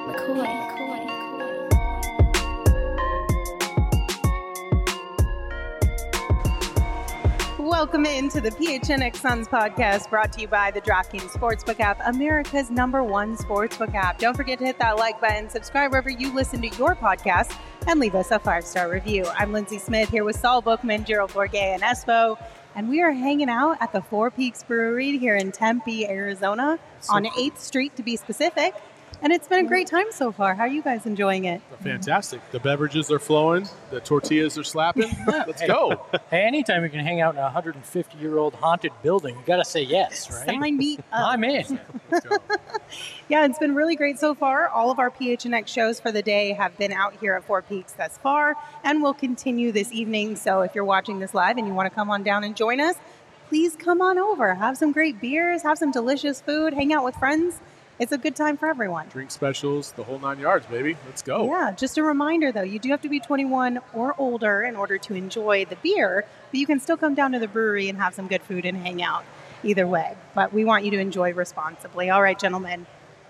Welcome into the PHNX Suns podcast, brought to you by the DraftKings Sportsbook app, America's #1 sportsbook app. Don't forget to hit that like button, subscribe wherever you listen to your podcast, and leave us a 5-star review. I'm Lindsay Smith here with Saul Bookman, Gerald Bourguet, and Espo, and we are hanging out at the Four Peaks Brewery here in Tempe, Arizona, on 8th Street to be specific. And it's been a great time so far. How are you guys enjoying it? Fantastic. The beverages are flowing. The tortillas are slapping. Let's go. Hey, anytime you can hang out in a 150-year-old haunted building, you got to say yes, right? Sign me up. I'm in. Let's go. Yeah, it's been really great so far. All of our PHNX shows for the day have been out here at Four Peaks thus far and will continue this evening. So if you're watching this live and you want to come on down and join us, please come on over. Have some great beers, have some delicious food, hang out with friends. It's a good time for everyone. Drink specials, the whole 9 yards, baby. Let's go. Yeah, just a reminder, though, you do have to be 21 or older in order to enjoy the beer, but you can still come down to the brewery and have some good food and hang out either way. But we want you to enjoy responsibly. All right, gentlemen.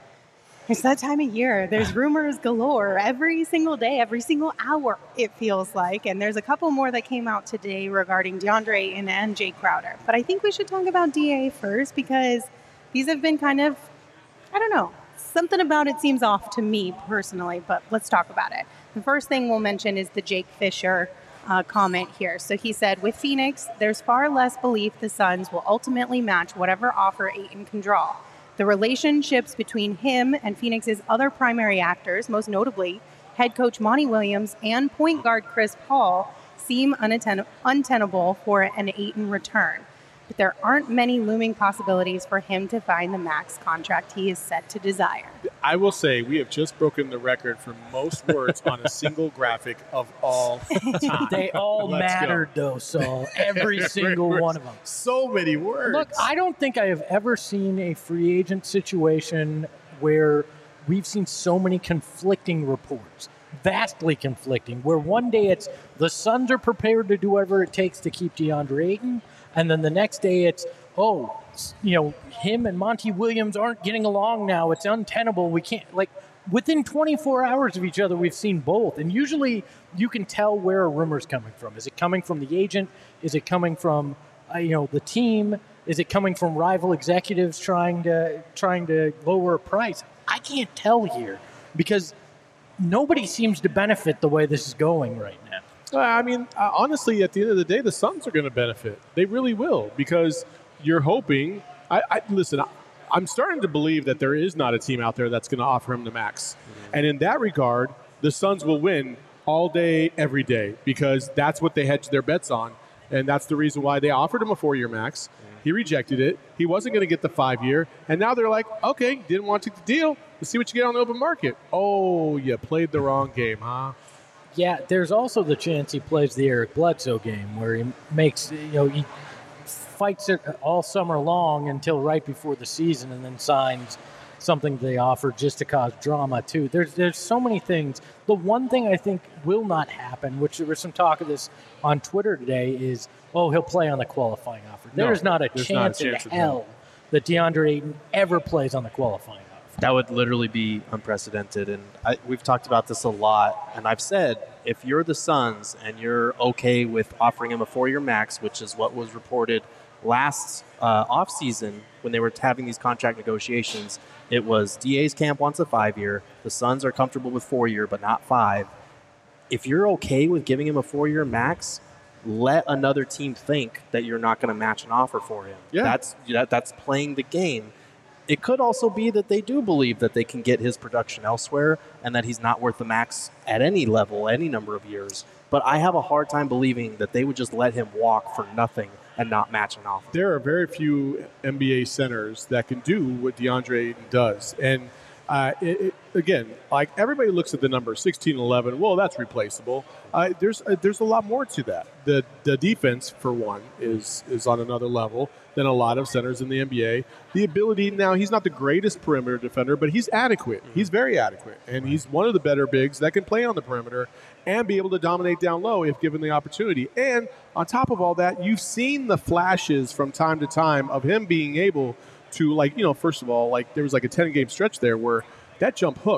It's that time of year. There's rumors galore every single day, every single hour, it feels like. And there's a couple more that came out today regarding DeAndre Ayton and Jay Crowder. But I think we should talk about DA first because these have been kind of, I don't know, something about it seems off to me personally, but let's talk about it. The first thing we'll mention is the Jake Fisher comment here. So he said, with Phoenix, there's far less belief the Suns will ultimately match whatever offer Ayton can draw. The relationships between him and Phoenix's other primary actors, most notably head coach Monty Williams and point guard Chris Paul, seem untenable for an Ayton return. But there aren't many looming possibilities for him to find the max contract he is set to desire. I will say we have just broken the record for most words on a single graphic of all time. They all mattered, though, Saul. Every single one of them. So many words. Look, I don't think I have ever seen a free agent situation where we've seen so many conflicting reports. Vastly conflicting, where one day it's the Suns are prepared to do whatever it takes to keep DeAndre Ayton, and then the next day it's, him and Monty Williams aren't getting along now. It's untenable. We can't, within 24 hours of each other, we've seen both. And usually you can tell where a rumor's coming from. Is it coming from the agent? Is it coming from, the team? Is it coming from rival executives trying to lower a price? I can't tell here because nobody seems to benefit the way this is going right now. Honestly, at the end of the day, the Suns are going to benefit. They really will because you're hoping. Listen, I'm starting to believe that there is not a team out there that's going to offer him the max. Mm-hmm. And in that regard, the Suns will win all day, every day because that's what they hedged their bets on. And that's the reason why they offered him a 4-year max. Mm-hmm. He rejected it. He wasn't going to get the 5-year. And now they're like, okay, didn't want to take the deal. Let's see what you get on the open market. Oh, you played the wrong game, huh? Yeah, there's also the chance he plays the Eric Bledsoe game where he makes, he fights it all summer long until right before the season and then signs something they offer just to cause drama too. There's so many things. The one thing I think will not happen, which there was some talk of this on Twitter today, is, he'll play on the qualifying offer. There's not a chance in hell that DeAndre Ayton ever plays on the qualifying offer. That would literally be unprecedented, and we've talked about this a lot, and I've said if you're the Suns and you're okay with offering him a 4-year max, which is what was reported last offseason when they were having these contract negotiations, it was DA's camp wants a 5-year, the Suns are comfortable with 4-year but not 5. If you're okay with giving him a 4-year max, let another team think that you're not going to match an offer for him. Yeah. That's playing the game. It could also be that they do believe that they can get his production elsewhere and that he's not worth the max at any level, any number of years. But I have a hard time believing that they would just let him walk for nothing and not match an offer. There are very few NBA centers that can do what DeAndre Ayton does. And again, like everybody looks at the number 16-11. Well, that's replaceable. There's a lot more to that. The defense, for one, is on another level than a lot of centers in the NBA. The ability, now he's not the greatest perimeter defender, but he's adequate. He's very adequate, and he's one of the better bigs that can play on the perimeter and be able to dominate down low if given the opportunity. And on top of all that, you've seen the flashes from time to time of him being able to, first of all, there was a 10-game stretch there where that jump hook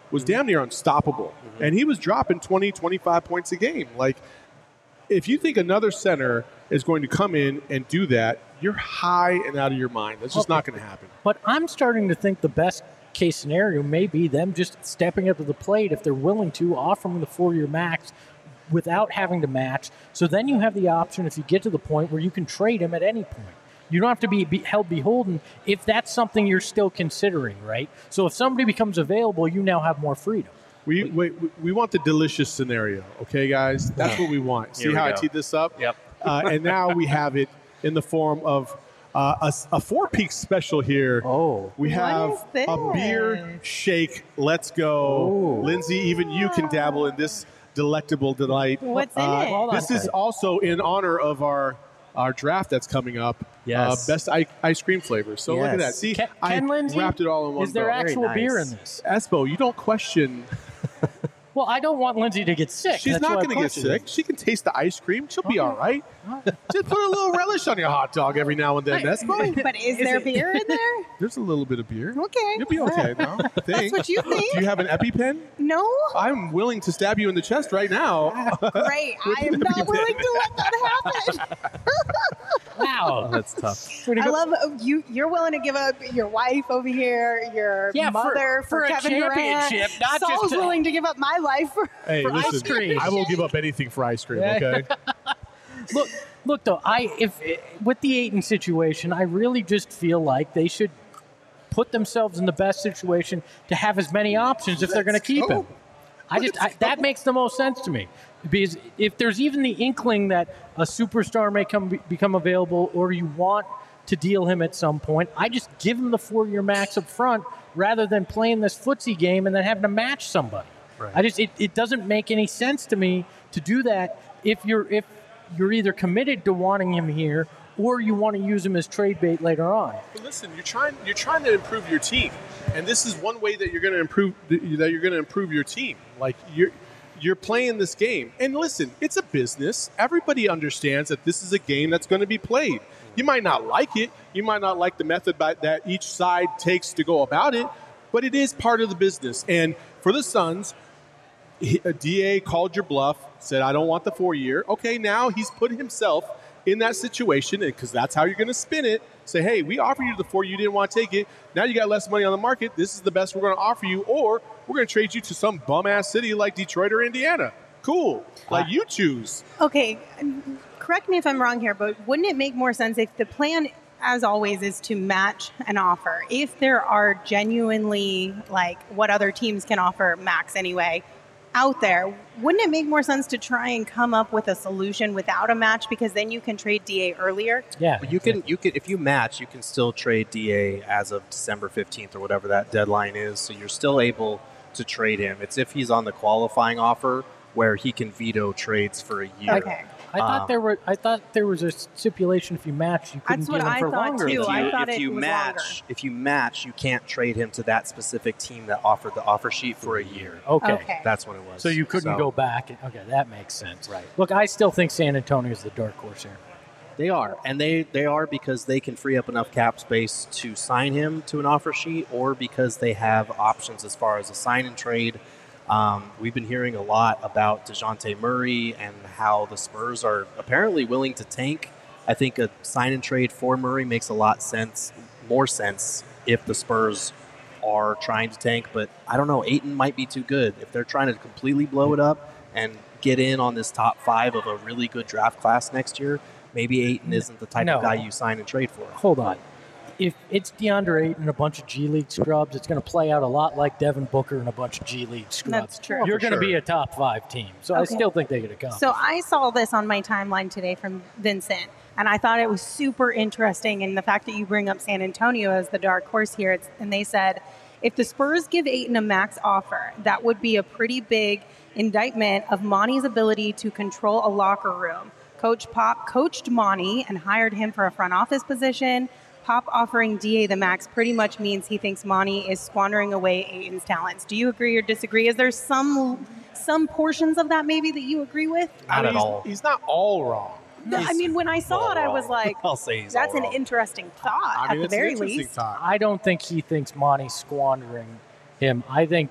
was damn near unstoppable. And he was dropping 20, 25 points a game. Like, if you think another center is going to come in and do that, you're high and out of your mind. That's just not going to happen. But I'm starting to think the best case scenario may be them just stepping up to the plate if they're willing to, offering the 4-year max without having to match. So then you have the option if you get to the point where you can trade him at any point. You don't have to be held beholden if that's something you're still considering, right? So if somebody becomes available, you now have more freedom. We want the delicious scenario, okay, guys? That's what we want. See how I teed this up? Yep. And now we have it in the form of a Four Peaks special here. Oh. We have is this? a beer shake. Let's go. Lindsay, even you can dabble in this delectable delight. What's in it? This is also in honor of our draft that's coming up. Yes. Best ice cream flavors. So look at that. Yes. See, Ken Lindsay, wrapped it all in one is there bow. actual Very beer nice. in this? Espo, you don't question. Well, I don't want Lindsay to get sick. She's That's not why going to I'm get sick. She can taste the ice cream. She'll be all right. Just put a little relish on your hot dog every now and then. That's fine. But is there beer in there? There's a little bit of beer. Okay. You'll be okay now. That's what you think? Do you have an EpiPen? No? I'm willing to stab you in the chest right now. Great. I am not willing to let that happen. Wow. That's tough. I love you're willing to give up your wife over here, your mother for a Kevin Durant. championship, not Saul's just to- willing to give up my life for Hey, For ice listen, cream. I will give up anything for ice cream, okay? Look though, with the Ayton situation, I really just feel like they should put themselves in the best situation to have as many options if they're going to keep him. That makes the most sense to me, because if there's even the inkling that a superstar may become available, or you want to deal him at some point, I just give him the 4-year max up front rather than playing this footsie game and then having to match somebody. Right. It doesn't make any sense to me to do that if you're either committed to wanting him here or you want to use him as trade bait later on. But listen, you're trying to improve your team, and this is one way that you're going to improve your team. Like you're playing this game, and listen, it's a business. Everybody understands that this is a game that's going to be played. You might not like it. You might not like the method that each side takes to go about it, but it is part of the business. And for the Suns, a DA called your bluff, said, I don't want the 4-year. Okay, now he's put himself in that situation, because that's how you're going to spin it. Say, hey, we offered you the 4, you didn't want to take it. Now you got less money on the market. This is the best we're going to offer you, or we're going to trade you to some bum-ass city like Detroit or Indiana. Cool. Like, you choose. Okay, correct me if I'm wrong here, but wouldn't it make more sense if the plan, as always, is to match an offer? If there are genuinely, like, what other teams can offer max anyway, out there, wouldn't it make more sense to try and come up with a solution without a match, because then you can trade DA earlier? Yeah, But you can if you match, you can still trade DA as of December 15th or whatever that deadline is. So you're still able to trade him. It's if he's on the qualifying offer where he can veto trades for a year. Okay. I thought there was a stipulation if you match, you couldn't That's what get him I for thought, longer. too. than I that. thought it was longer. If you match, you can't trade him to that specific team that offered the offer sheet for a year. Okay. That's what it was. So you couldn't go back. Okay, that makes sense. Right. Look, I still think San Antonio is the dark horse here. They are, and they are because they can free up enough cap space to sign him to an offer sheet, or because they have options as far as a sign and trade. We've been hearing a lot about DeJounte Murray and how the Spurs are apparently willing to tank. I think a sign and trade for Murray makes a lot more sense if the Spurs are trying to tank. But I don't know, Ayton might be too good. If they're trying to completely blow it up and get in on this top 5 of a really good draft class next year, maybe Ayton isn't the type of guy you sign and trade for. Hold on. If it's DeAndre Ayton and a bunch of G League scrubs, it's going to play out a lot like Devin Booker and a bunch of G League scrubs. That's true. You're going to be a top 5 team. So I still think they're going to come. So I saw this on my timeline today from Vincent, and I thought it was super interesting. And the fact that you bring up San Antonio as the dark horse here, and they said, if the Spurs give Ayton a max offer, that would be a pretty big indictment of Monty's ability to control a locker room. Coach Pop coached Monty and hired him for a front office position. Pop offering DA the max pretty much means he thinks Monty is squandering away Ayton's talents. Do you agree or disagree? Is there some portions of that maybe that you agree with? Not at all. He's not all wrong. I mean, when I saw it, I was like, I'll say he's that's all an wrong. interesting thought, I mean, at the it's an very interesting least. thought. I don't think he thinks Monty's squandering him. I think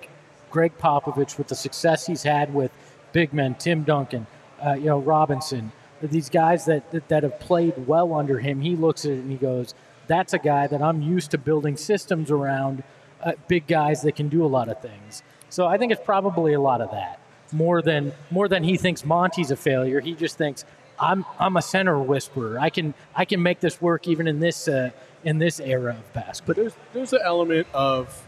Greg Popovich, with the success he's had with big men, Tim Duncan, Robinson, these guys that have played well under him, he looks at it and he goes, that's a guy that I'm used to building systems around, big guys that can do a lot of things. So I think it's probably a lot of that. More than he thinks Monty's a failure. He just thinks I'm a center whisperer. I can make this work even in this era of basketball. But there's an element of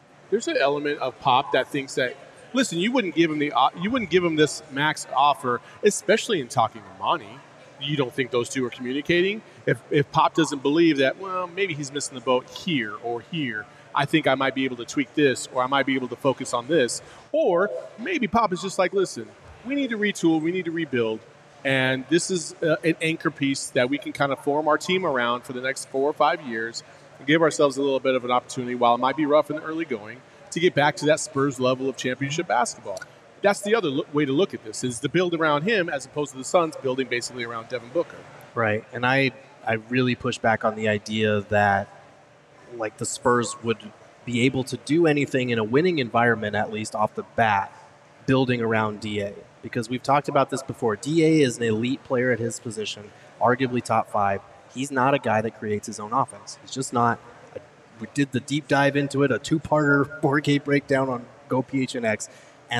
Pop that thinks that, listen, you wouldn't give him this max offer, especially in talking to Monty. You don't think those two are communicating? If Pop doesn't believe that, well, maybe he's missing the boat here or here, I think I might be able to tweak this, or I might be able to focus on this. Or maybe Pop is just like, listen, we need to retool, we need to rebuild, and this is an anchor piece that we can kind of form our team around for the next 4 or 5 years and give ourselves a little bit of an opportunity, while it might be rough in the early going, to get back to that Spurs level of championship basketball. That's the other way to look at this, is to build around him as opposed to the Suns building basically around Devin Booker. Right, and I really push back on the idea that the Spurs would be able to do anything in a winning environment, at least off the bat, building around DA. Because we've talked about this before. DA is an elite player at his position, arguably top 5. He's not a guy that creates his own offense. He's just not. We did the deep dive into it, a 2-parter 4K breakdown on Go PHNX, and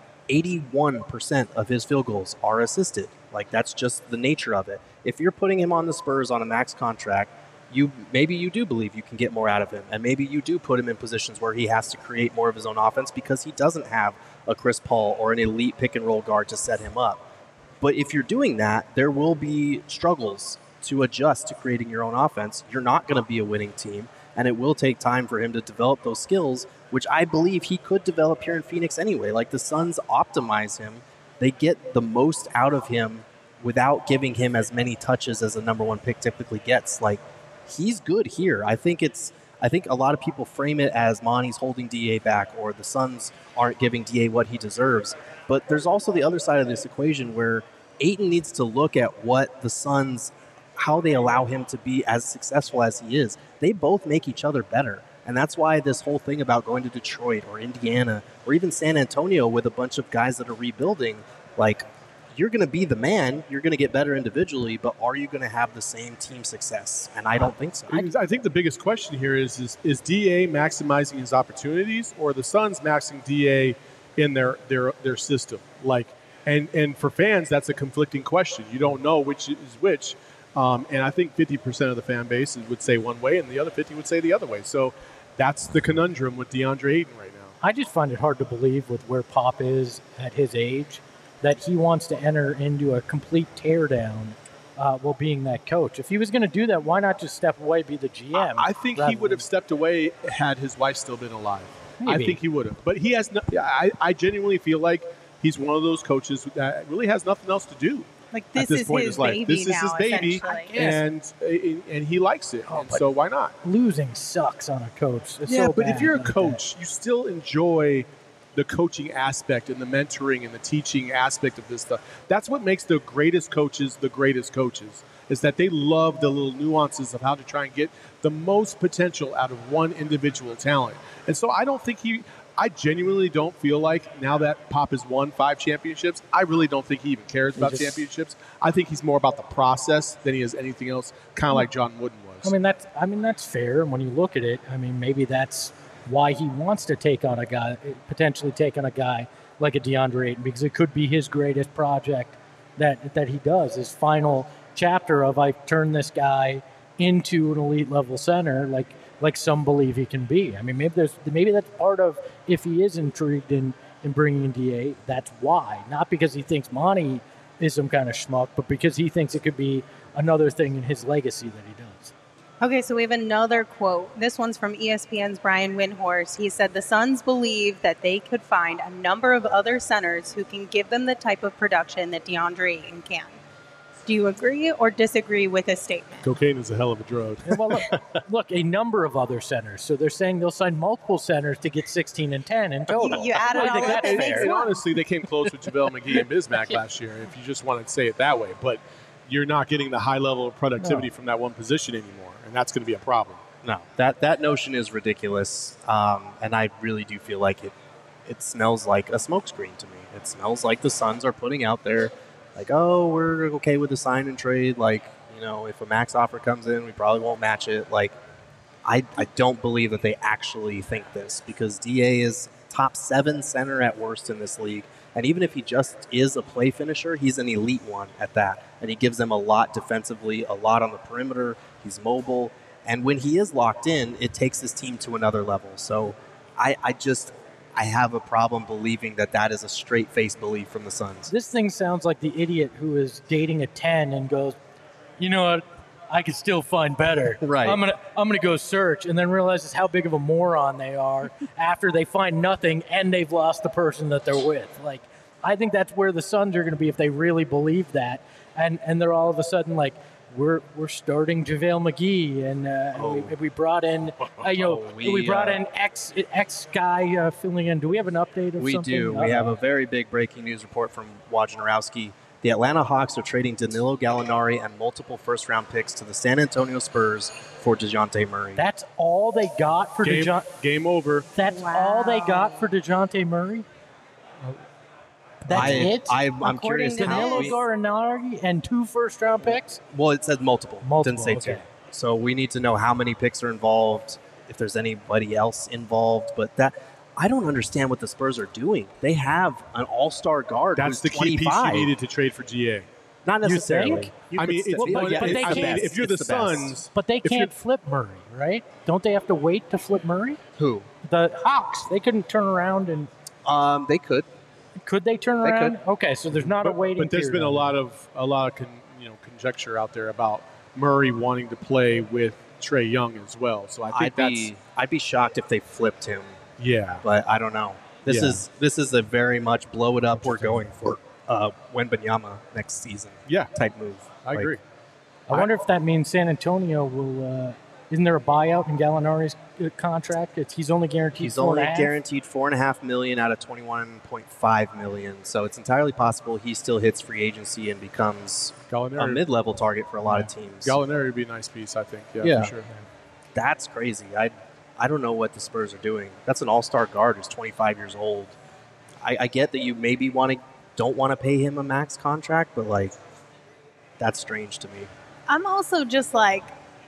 81% of his field goals are assisted. That's just the nature of it. If you're putting him on the Spurs on a max contract, maybe you do believe you can get more out of him, and maybe you do put him in positions where he has to create more of his own offense because he doesn't have a Chris Paul or an elite pick-and-roll guard to set him up. But if you're doing that, there will be struggles to adjust to creating your own offense. You're not going to be a winning team, and it will take time for him to develop those skills, which I believe he could develop here in Phoenix anyway. The Suns optimize him. They get the most out of him without giving him as many touches as a number 1 pick typically gets. He's good here. I think a lot of people frame it as Monty's holding DA back, or the Suns aren't giving DA what he deserves. But there's also the other side of this equation where Ayton needs to look at what the Suns, how they allow him to be as successful as he is. They both make each other better. And that's why this whole thing about going to Detroit or Indiana or even San Antonio with a bunch of guys that are rebuilding, you're going to be the man, you're going to get better individually, but are you going to have the same team success? And I don't think so. I think the biggest question here is DA maximizing his opportunities, or the Suns maxing DA in their system? And for fans, that's a conflicting question. You don't know which is which. And I think 50% of the fan base would say one way, and the other 50 would say the other way. So that's the conundrum with DeAndre Ayton right now. I just find it hard to believe, with where Pop is at his age, that he wants to enter into a complete teardown while being that coach. If he was going to do that, why not just step away, be the GM? I think he would have stepped away had his wife still been alive. Maybe. I think he would have. But he has. I genuinely feel like he's one of those coaches that really has nothing else to do. This is his baby. This is his baby, and he likes it. And so why not? Losing sucks on a coach. It's yeah, so but bad if you're a coach, you still enjoy the coaching aspect and the mentoring and the teaching aspect of this stuff. That's what makes the greatest coaches, is that they love the little nuances of how to try and get the most potential out of one individual talent. And so I genuinely don't feel like, now that Pop has won 5 championships, I really don't think he even cares about championships. I think he's more about the process than he is anything else, kind of like John Wooden was. That's fair. And when you look at it, maybe that's why he wants to potentially take on a guy like a DeAndre Ayton, because it could be his greatest project that he does, his final chapter of, I turn this guy into an elite level center, like some believe he can be. Maybe that's part of, if he is intrigued in bringing in DA, that's why. Not because he thinks Monty is some kind of schmuck, but because he thinks it could be another thing in his legacy that he does. Okay, so we have another quote. This one's from ESPN's Brian Windhorst. He said, the Suns believe that they could find a number of other centers who can give them the type of production that DeAndre Ayton can. Do you agree or disagree with this statement? Cocaine is a hell of a drug. Well, look, a number of other centers. So they're saying they'll sign multiple centers to get 16 and 10 in total. You add it all up, it makes and one. honestly, they came close with JaVale McGee and Bismack last year, if you just want to say it that way. But you're not getting the high level of productivity from that one position anymore, and that's going to be a problem. No, that notion is ridiculous, and I really do feel like it smells like a smokescreen to me. It smells like the Suns are putting out there, like, oh, we're okay with the sign and trade. Like, if a max offer comes in, we probably won't match it. Like, I don't believe that they actually think this, because DA is top 7 center at worst in this league. And even if he just is a play finisher, he's an elite one at that. And he gives them a lot defensively, a lot on the perimeter. He's mobile. And when he is locked in, it takes his team to another level. So I have a problem believing that is a straight-faced belief from the Suns. This thing sounds like the idiot who is dating a 10 and goes, you know what, I could still find better. Right. I'm gonna go search, and then realizes how big of a moron they are after they find nothing and they've lost the person that they're with. Like, I think that's where the Suns are going to be if they really believe that, and they're all of a sudden like, we're starting JaVale McGee, and we brought in we brought in X guy filling in. Do we have an update of we something? We do. We have a very big breaking news report from Wojnarowski. The Atlanta Hawks are trading Danilo Gallinari and multiple first-round picks to the San Antonio Spurs for DeJounte Murray. That's all they got for DeJounte. Game over. That's all they got for DeJounte Murray. That's it. I'm curious. Danilo Gallinari and 2 first-round picks. Well, it said multiple. Didn't say okay. 2. So we need to know how many picks are involved, if there's anybody else involved. But I don't understand what the Spurs are doing. They have an all-star guard. That's the key piece you needed to trade for GA. Not necessarily. If you're the Suns, but they can't flip Murray, right? Don't they have to wait to flip Murray? Who? The Hawks. They couldn't turn around and. They could. Could they turn around? They could. Okay, so there's not a waiting. But there's been a lot of conjecture out there about Murray wanting to play with Trae Young as well. So I think I'd be shocked if they flipped him. Yeah, but I don't know. This is a very much blow it up. We're going for Wembanyama next season. Yeah, type move. I agree. I wonder if that means San Antonio will. Isn't there a buyout in Gallinari's contract? He's only guaranteed. He's only guaranteed $4.5 million out of $21.5 million. So it's entirely possible he still hits free agency and becomes a mid-level target for a lot of teams. Gallinari would be a nice piece, I think. Yeah, for sure. That's crazy. I don't know what the Spurs are doing. That's an all-star guard who's 25 years old. I get that you maybe don't want to pay him a max contract, but that's strange to me. I'm also just like,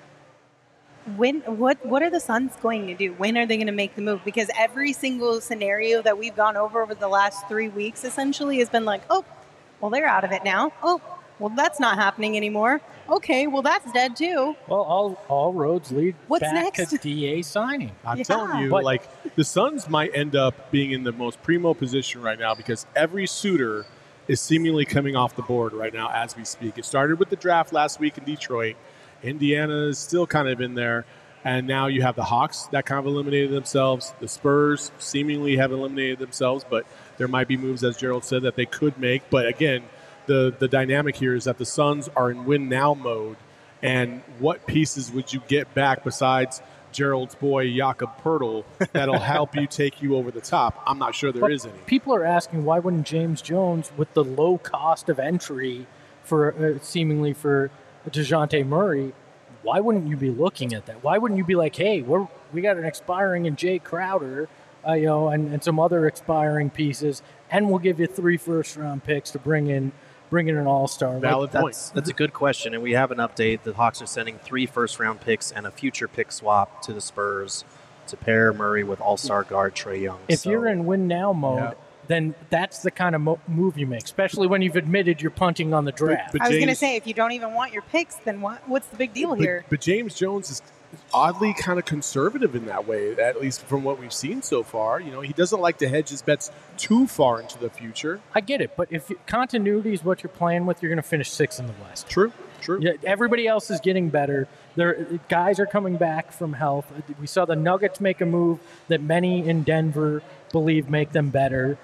what are the Suns going to do? When are they going to make the move? Because every single scenario that we've gone over the last 3 weeks essentially has been like, oh, well, they're out of it now. Oh, well, that's not happening anymore. Okay, well, that's dead too. Well, all roads lead back next? to DA signing. I'm telling you, the Suns might end up being in the most primo position right now because every suitor is seemingly coming off the board right now as we speak. It started with the draft last week in Detroit. Indiana is still kind of in there. And now you have the Hawks that kind of eliminated themselves. The Spurs seemingly have eliminated themselves, but there might be moves, as Gerald said, that they could make. But again, the dynamic here is that the Suns are in win-now mode. And what pieces would you get back besides Gerald's boy, Jakob Poeltl, that'll help you take you over the top? I'm not sure there is any. People are asking, why wouldn't James Jones, with the low cost of entry for seemingly for DeJounte Murray, why wouldn't you be looking at that? Why wouldn't you be like, hey, we got an expiring in Jay Crowder, and some other expiring pieces, and we'll give you 3 first-round picks to bring in an all-star. Valid point. That's a good question, and we have an update. The Hawks are sending 3 first-round picks and a future pick swap to the Spurs to pair Murray with all-star guard Trae Young. If you're in win-now mode, then that's the kind of move you make, especially when you've admitted you're punting on the draft. But I was going to say, if you don't even want your picks, then what's the big deal here? But James Jones is oddly kind of conservative in that way, at least from what we've seen so far. He doesn't like to hedge his bets too far into the future. I get it, but if continuity is what you're playing with, you're going to finish 6th in the West. True. Yeah, everybody else is getting better. Guys are coming back from health. We saw the Nuggets make a move that many in Denver believe make them better.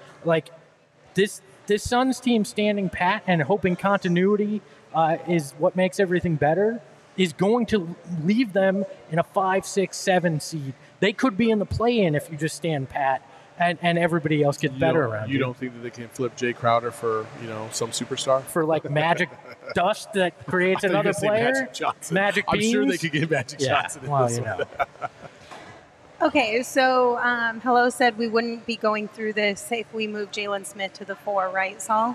This Suns team standing pat and hoping continuity is what makes everything better is going to leave them in a 5, 6, 7 seed. They could be in the play-in if you just stand pat and everybody else gets better around you. You don't think that they can flip Jay Crowder for some superstar? For magic dust that creates another player? Magic Johnson. Magic beans? I'm sure they could get Magic Johnson. Well, Okay, so Hello said we wouldn't be going through this if we moved Jalen Smith to the 4, right, Saul?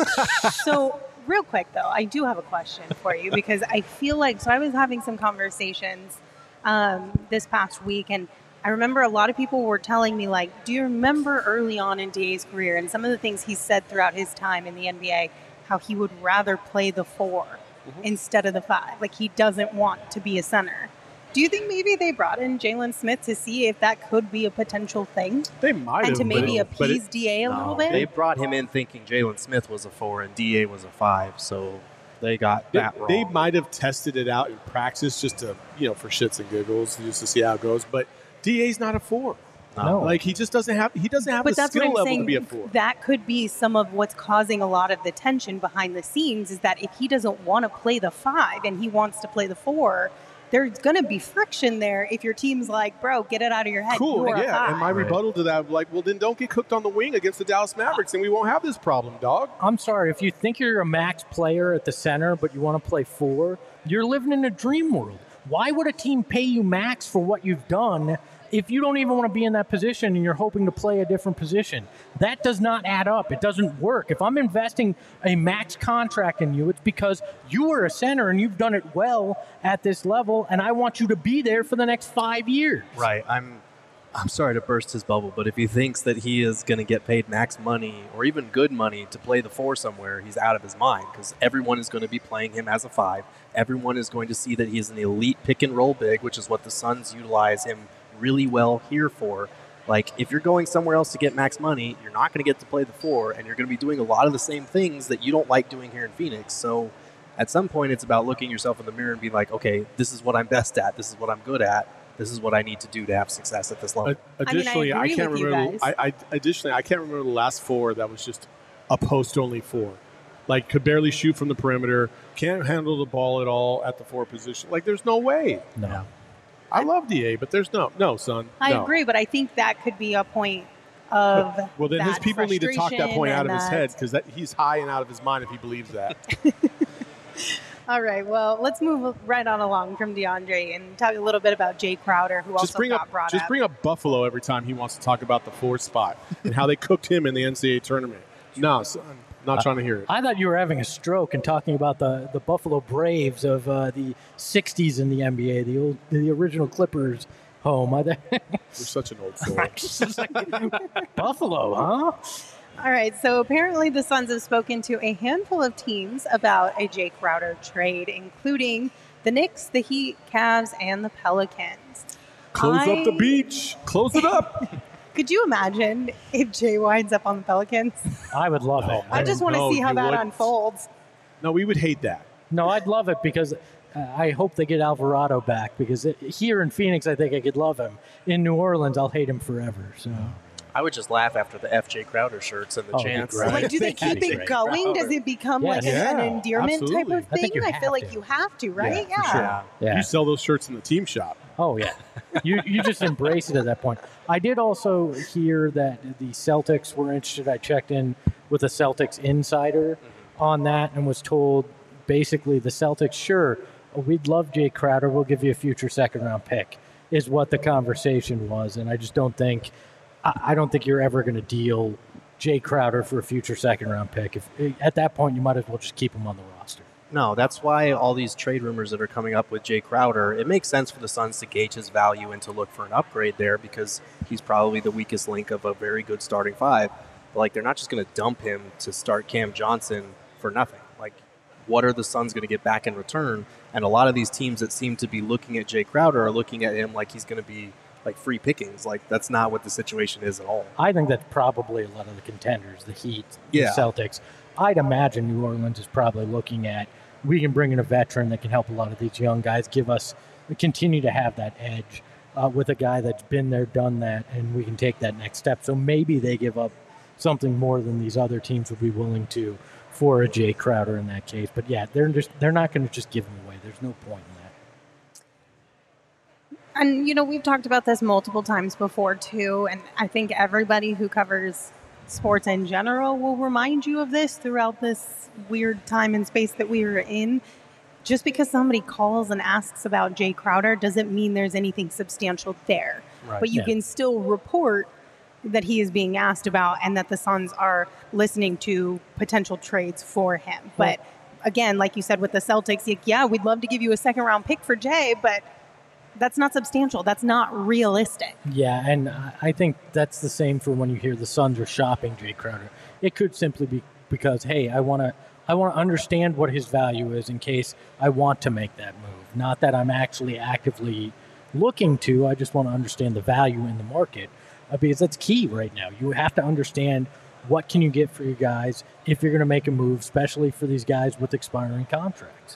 So, real quick though, I do have a question for you because I feel like, so I was having some conversations this past week, and I remember a lot of people were telling me, like, do you remember early on in DA's career and some of the things he said throughout his time in the NBA, how he would rather play the 4 instead of the 5? Like, he doesn't want to be a center. Do you think maybe they brought in Jalen Smith to see if that could be a potential thing? They might have. And to maybe appease DA a little bit? They brought him in thinking Jalen Smith was a 4 and DA was a 5, so they got that wrong. They might have tested it out in practice just to, for shits and giggles, just to see how it goes. But DA's not a 4. No. Like, he just doesn't have the skill level to be a 4. That could be some of what's causing a lot of the tension behind the scenes, is that if he doesn't want to play the 5 and he wants to play the 4, there's going to be friction there if your team's like, bro, get it out of your head. Cool, You're a 5. And my rebuttal to that, like, well, then don't get cooked on the wing against the Dallas Mavericks, and we won't have this problem, dog. I'm sorry, if you think you're a max player at the center, but you want to play 4, you're living in a dream world. Why would a team pay you max for what you've done if you don't even want to be in that position and you're hoping to play a different position? That does not add up. It doesn't work. If I'm investing a max contract in you, it's because you are a center and you've done it well at this level, and I want you to be there for the next 5 years. Right. I'm sorry to burst his bubble, but if he thinks that he is going to get paid max money or even good money to play the 4 somewhere, he's out of his mind, because everyone is going to be playing him as a 5. Everyone is going to see that he's an elite pick and roll big, which is what the Suns utilize him really well here for. Like, if you're going somewhere else to get max money, you're not going to get to play the 4, and you're going to be doing a lot of the same things that you don't like doing here in Phoenix. So at some point, it's about looking yourself in the mirror and being like, okay, this is what I'm best at. This is what I'm good at. This is what I need to do to have success at this level. Additionally, I can't remember. Additionally, I can't remember the last 4 that was just a post-only 4. Like, could barely shoot from the perimeter, can't handle the ball at all at the 4 position. Like, there's no way. No. I love DA, but there's no, son. I agree, but I think that could be a point of well, then his that people need to talk that point out of his frustration head, because he's high and out of his mind if he believes that. All right, well, let's move right on along from DeAndre and talk a little bit about Jay Crowder, who also got brought up. Just bring up Buffalo every time he wants to talk about the 4 spot and how they cooked him in the NCAA tournament. No, son, not trying to hear it. I thought you were having a stroke and talking about the Buffalo Braves of the 60s in the NBA, the original Clippers home. You're such an old soul. Buffalo, huh? All right, so apparently the Suns have spoken to a handful of teams about a Jay Crowder trade, including the Knicks, the Heat, Cavs, and the Pelicans. Close up the beach. Close it up. Could you imagine if Jay winds up on the Pelicans? I would love it. I just want to see how that unfolds. No, we would hate that. No, I'd love it because I hope they get Alvarado back, because here in Phoenix, I think I could love him. In New Orleans, I'll hate him forever. So I would just laugh after the FJ Crowder shirts and the chants. Like, do they keep it going? Does it become like an endearment type of thing? I feel like you have to, right? Yeah. For sure. You sell those shirts in the team shop. Oh, yeah. You just embrace it at that point. I did also hear that the Celtics were interested. I checked in with a Celtics insider on that and was told basically the Celtics, sure, we'd love Jay Crowder. We'll give you a future second-round pick, is what the conversation was. And I just don't think you're ever going to deal Jay Crowder for a future second-round pick. At that point, you might as well just keep him on the roster. No, that's why all these trade rumors that are coming up with Jay Crowder, it makes sense for the Suns to gauge his value and to look for an upgrade there, because he's probably the weakest link of a very good starting 5. But, like, they're not just going to dump him to start Cam Johnson for nothing. Like, what are the Suns going to get back in return? And a lot of these teams that seem to be looking at Jay Crowder are looking at him like he's going to be like free pickings. Like, that's not what the situation is at all. I think that's probably a lot of the contenders, the Heat, the Celtics. I'd imagine New Orleans is probably looking at, we can bring in a veteran that can help a lot of these young guys, continue to have that edge with a guy that's been there, done that, and we can take that next step. So maybe they give up something more than these other teams would be willing to for a Jay Crowder in that case. But yeah, they're not going to just give him away. There's no point in that. And, we've talked about this multiple times before, too, and I think everybody who covers sports in general will remind you of this throughout this weird time and space that we are in. Just because somebody calls and asks about Jay Crowder doesn't mean there's anything substantial there. Right, but you yeah. can still report that he is being asked about and that the Suns are listening to potential trades for him. But again, like you said with the Celtics, yeah, we'd love to give you a second-round pick for Jay, but that's not substantial. That's not realistic. Yeah, and I think that's the same for when you hear the Suns are shopping Jay Crowder. It could simply be because, hey, I want to understand what his value is in case I want to make that move. Not that I'm actually actively looking to. I just want to understand the value in the market because that's key right now. You have to understand what can you get for your guys if you're going to make a move, especially for these guys with expiring contracts.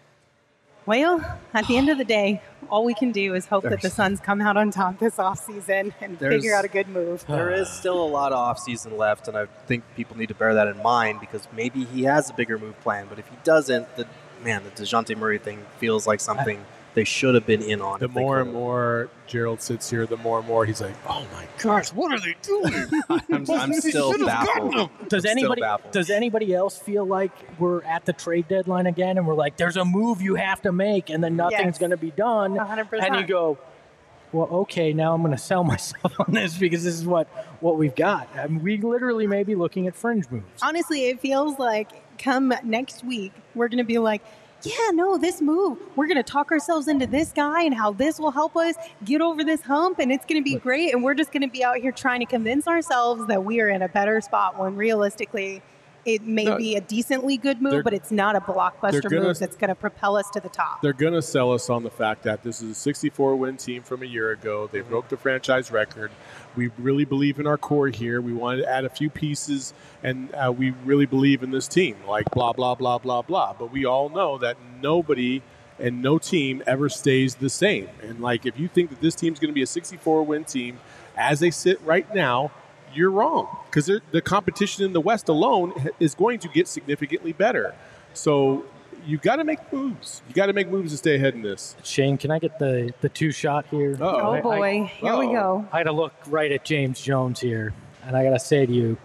Well, at the end of the day, all we can do is hope that the Suns come out on top this offseason and figure out a good move. There is still a lot of offseason left, and I think people need to bear that in mind because maybe he has a bigger move plan. But if he doesn't, the DeJounte Murray thing feels like something they should have been in on. The more and more Gerald sits here, the more and more he's like, oh my gosh, what are they doing? I'm still baffled. Does anybody else feel like we're at the trade deadline again and we're like, there's a move you have to make and then nothing's going to be done? 100%. And you go, well, okay, now I'm going to sell myself on this because this is what we've got. I mean, we literally may be looking at fringe moves. Honestly, it feels like come next week, we're going to be like, yeah, no, this move, we're going to talk ourselves into this guy and how this will help us get over this hump and it's going to be great. And we're just going to be out here trying to convince ourselves that we are in a better spot when realistically it may be a decently good move, but it's not a blockbuster move that's going to propel us to the top. They're going to sell us on the fact that this is a 64-win team from a year ago. They broke the franchise record. We really believe in our core here. We wanted to add a few pieces, and we really believe in this team, like blah, blah, blah, blah, blah. But we all know that nobody and no team ever stays the same. And, like, if you think that this team's going to be a 64-win team as they sit right now, you're wrong because the competition in the West alone is going to get significantly better. So you got to make moves. You got to make moves to stay ahead in this. Shane, can I get the two shot here? Oh, boy. Here we go. I had to look right at James Jones here, and I got to say to you,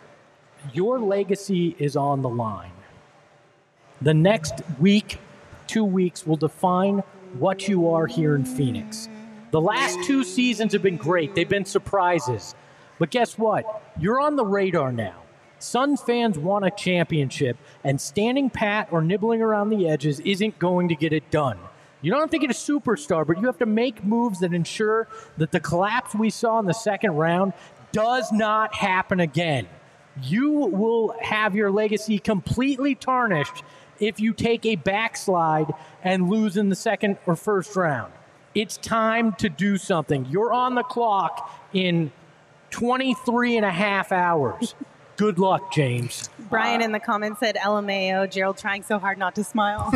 your legacy is on the line. The next week, 2 weeks will define what you are here in Phoenix. The last 2 seasons have been great. They've been surprises. But guess what? You're on the radar now. Suns fans want a championship, and standing pat or nibbling around the edges isn't going to get it done. You don't have to get a superstar, but you have to make moves that ensure that the collapse we saw in the second round does not happen again. You will have your legacy completely tarnished if you take a backslide and lose in the second or first round. It's time to do something. You're on the clock in 23 and a half hours. Good luck, James. Brian in the comments said LMAO, Gerald trying so hard not to smile.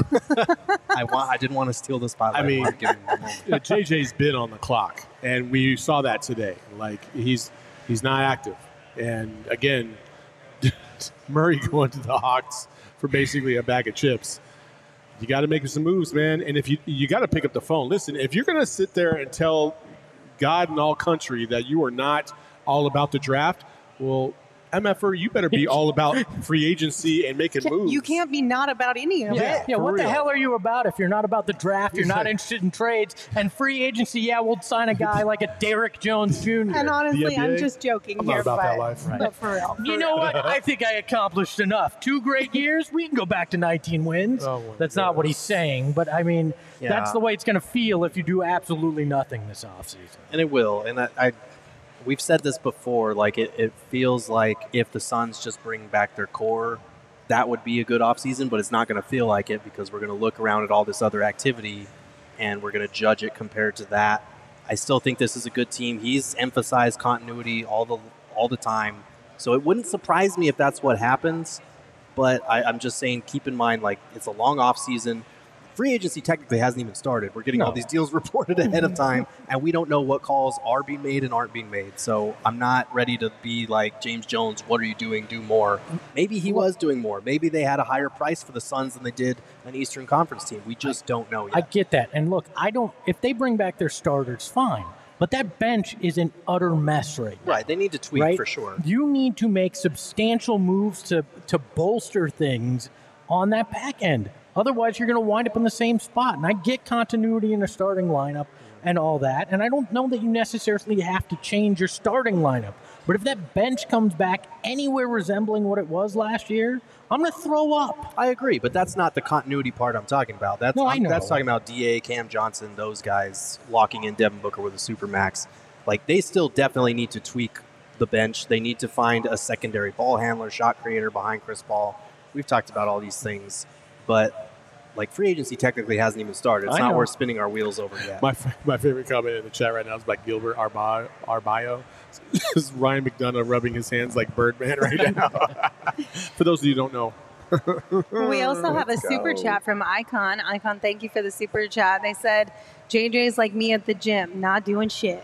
I didn't want to steal the spotlight. I mean, JJ's been on the clock, and we saw that today. Like, he's not active. And, again, Murray going to the Hawks for basically a bag of chips. You got to make some moves, man. And if you got to pick up the phone. Listen, if you're going to sit there and tell God and all country that you are not all about the draft, well, MFR, you better be all about free agency and making moves. You can't be not about any of it. Yeah, what the hell are you about if you're not about the draft, you're not interested in trades, and free agency, yeah, we'll sign a guy like a Derrick Jones Jr. And honestly, I'm just joking I'm here. not about that life. But for real. You know what? I think I accomplished enough. 2 great years, we can go back to 19 wins. That's not what he's saying, but I mean, that's the way it's going to feel if you do absolutely nothing this offseason. And it will. And we've said this before, like it feels like if the Suns just bring back their core, that would be a good offseason, but it's not going to feel like it because we're going to look around at all this other activity and we're going to judge it compared to that. I still think this is a good team. He's emphasized continuity all the time. So it wouldn't surprise me if that's what happens, but I'm just saying keep in mind, like, it's a long offseason. Free agency technically hasn't even started. We're getting all these deals reported ahead of time, and we don't know what calls are being made and aren't being made. So I'm not ready to be like James Jones, what are you doing? Do more. Maybe he was doing more. Maybe they had a higher price for the Suns than they did an Eastern Conference team. We just don't know yet. I get that. And look, if they bring back their starters, fine. But that bench is an utter mess right now. Right. They need to tweak for sure. You need to make substantial moves to bolster things on that back end. Otherwise, you're going to wind up in the same spot. And I get continuity in a starting lineup, and all that. And I don't know that you necessarily have to change your starting lineup. But if that bench comes back anywhere resembling what it was last year, I'm going to throw up. I agree, but that's not the continuity part I'm talking about. That's I know. That's talking about DA, Cam Johnson, those guys locking in Devin Booker with a supermax. Like, they still definitely need to tweak the bench. They need to find a secondary ball handler, shot creator behind Chris Paul. We've talked about all these things, but like, free agency technically hasn't even started. It's not worth spinning our wheels over yet. My favorite comment in the chat right now is by Gilbert Arbayo. Is Ryan McDonough rubbing his hands like Birdman right now? For those of you who don't know. We also have a super chat from Icon. Icon, thank you for the super chat. They said, JJ's like me at the gym, not doing shit.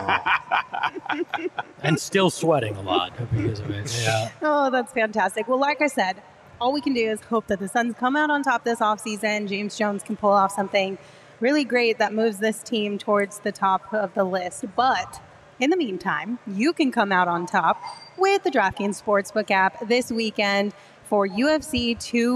And still sweating a lot because of it. Yeah. Oh, that's fantastic. Well, like I said, all we can do is hope that the Suns come out on top this offseason. James Jones can pull off something really great that moves this team towards the top of the list. But in the meantime, you can come out on top with the DraftKings Sportsbook app this weekend for UFC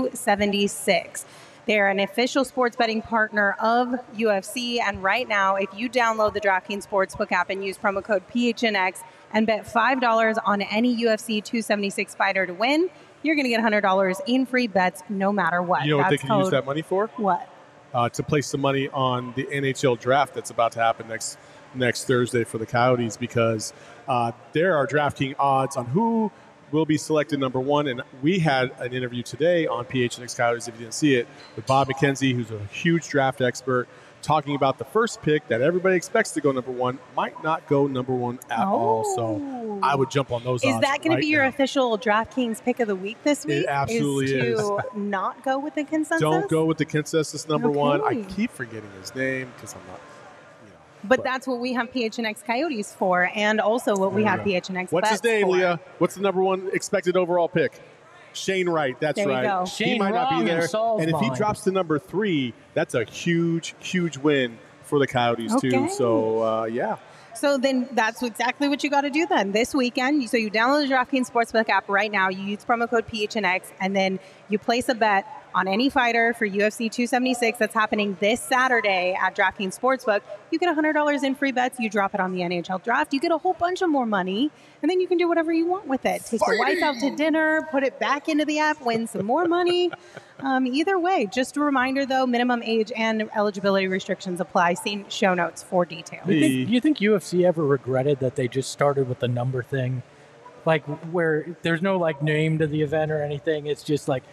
276. They're an official sports betting partner of UFC, and right now, if you download the DraftKings Sportsbook app and use promo code PHNX and bet $5 on any UFC 276 fighter to win, you're going to get $100 in free bets no matter what. You know what they can use that money for? What? To place some money on the NHL draft that's about to happen next Thursday for the Coyotes, because there are DraftKings odds on who will be selected number one. And we had an interview today on PHNX Coyotes, if you didn't see it, with Bob McKenzie, who's a huge draft expert, talking about the first pick that everybody expects to go number one might not go number one at all. So I would jump on those odds. Is that going to be your official DraftKings pick of the week this week? It absolutely is. To not go with the consensus? Don't go with the consensus number one. I Okay. keep forgetting his name because I'm not. But that's what we have PHNX Coyotes for, and also what we have PHNX What's his Bets name, for. Leah? What's the number one expected overall pick? Shane Wright. That's There we right. go. He Shane might not be Wrong there. in Saul's And if he mind. drops to number 3, that's a huge, huge win for the Coyotes, Okay. too. So, yeah. So then that's exactly what you got to do then this weekend. So you download the DraftKings Sportsbook app right now. You use promo code PHNX, and then you place a bet on any fighter for UFC 276 that's happening this Saturday at DraftKings Sportsbook. You get $100 in free bets. You drop it on the NHL draft. You get a whole bunch of more money, and then you can do whatever you want with it. Take your wife out to dinner, put it back into the app, win some more money. Either way, just a reminder though, minimum age and eligibility restrictions apply. See show notes for details. Do you think UFC ever regretted that they just started with the number thing? Like, where there's no like name to the event or anything. It's just like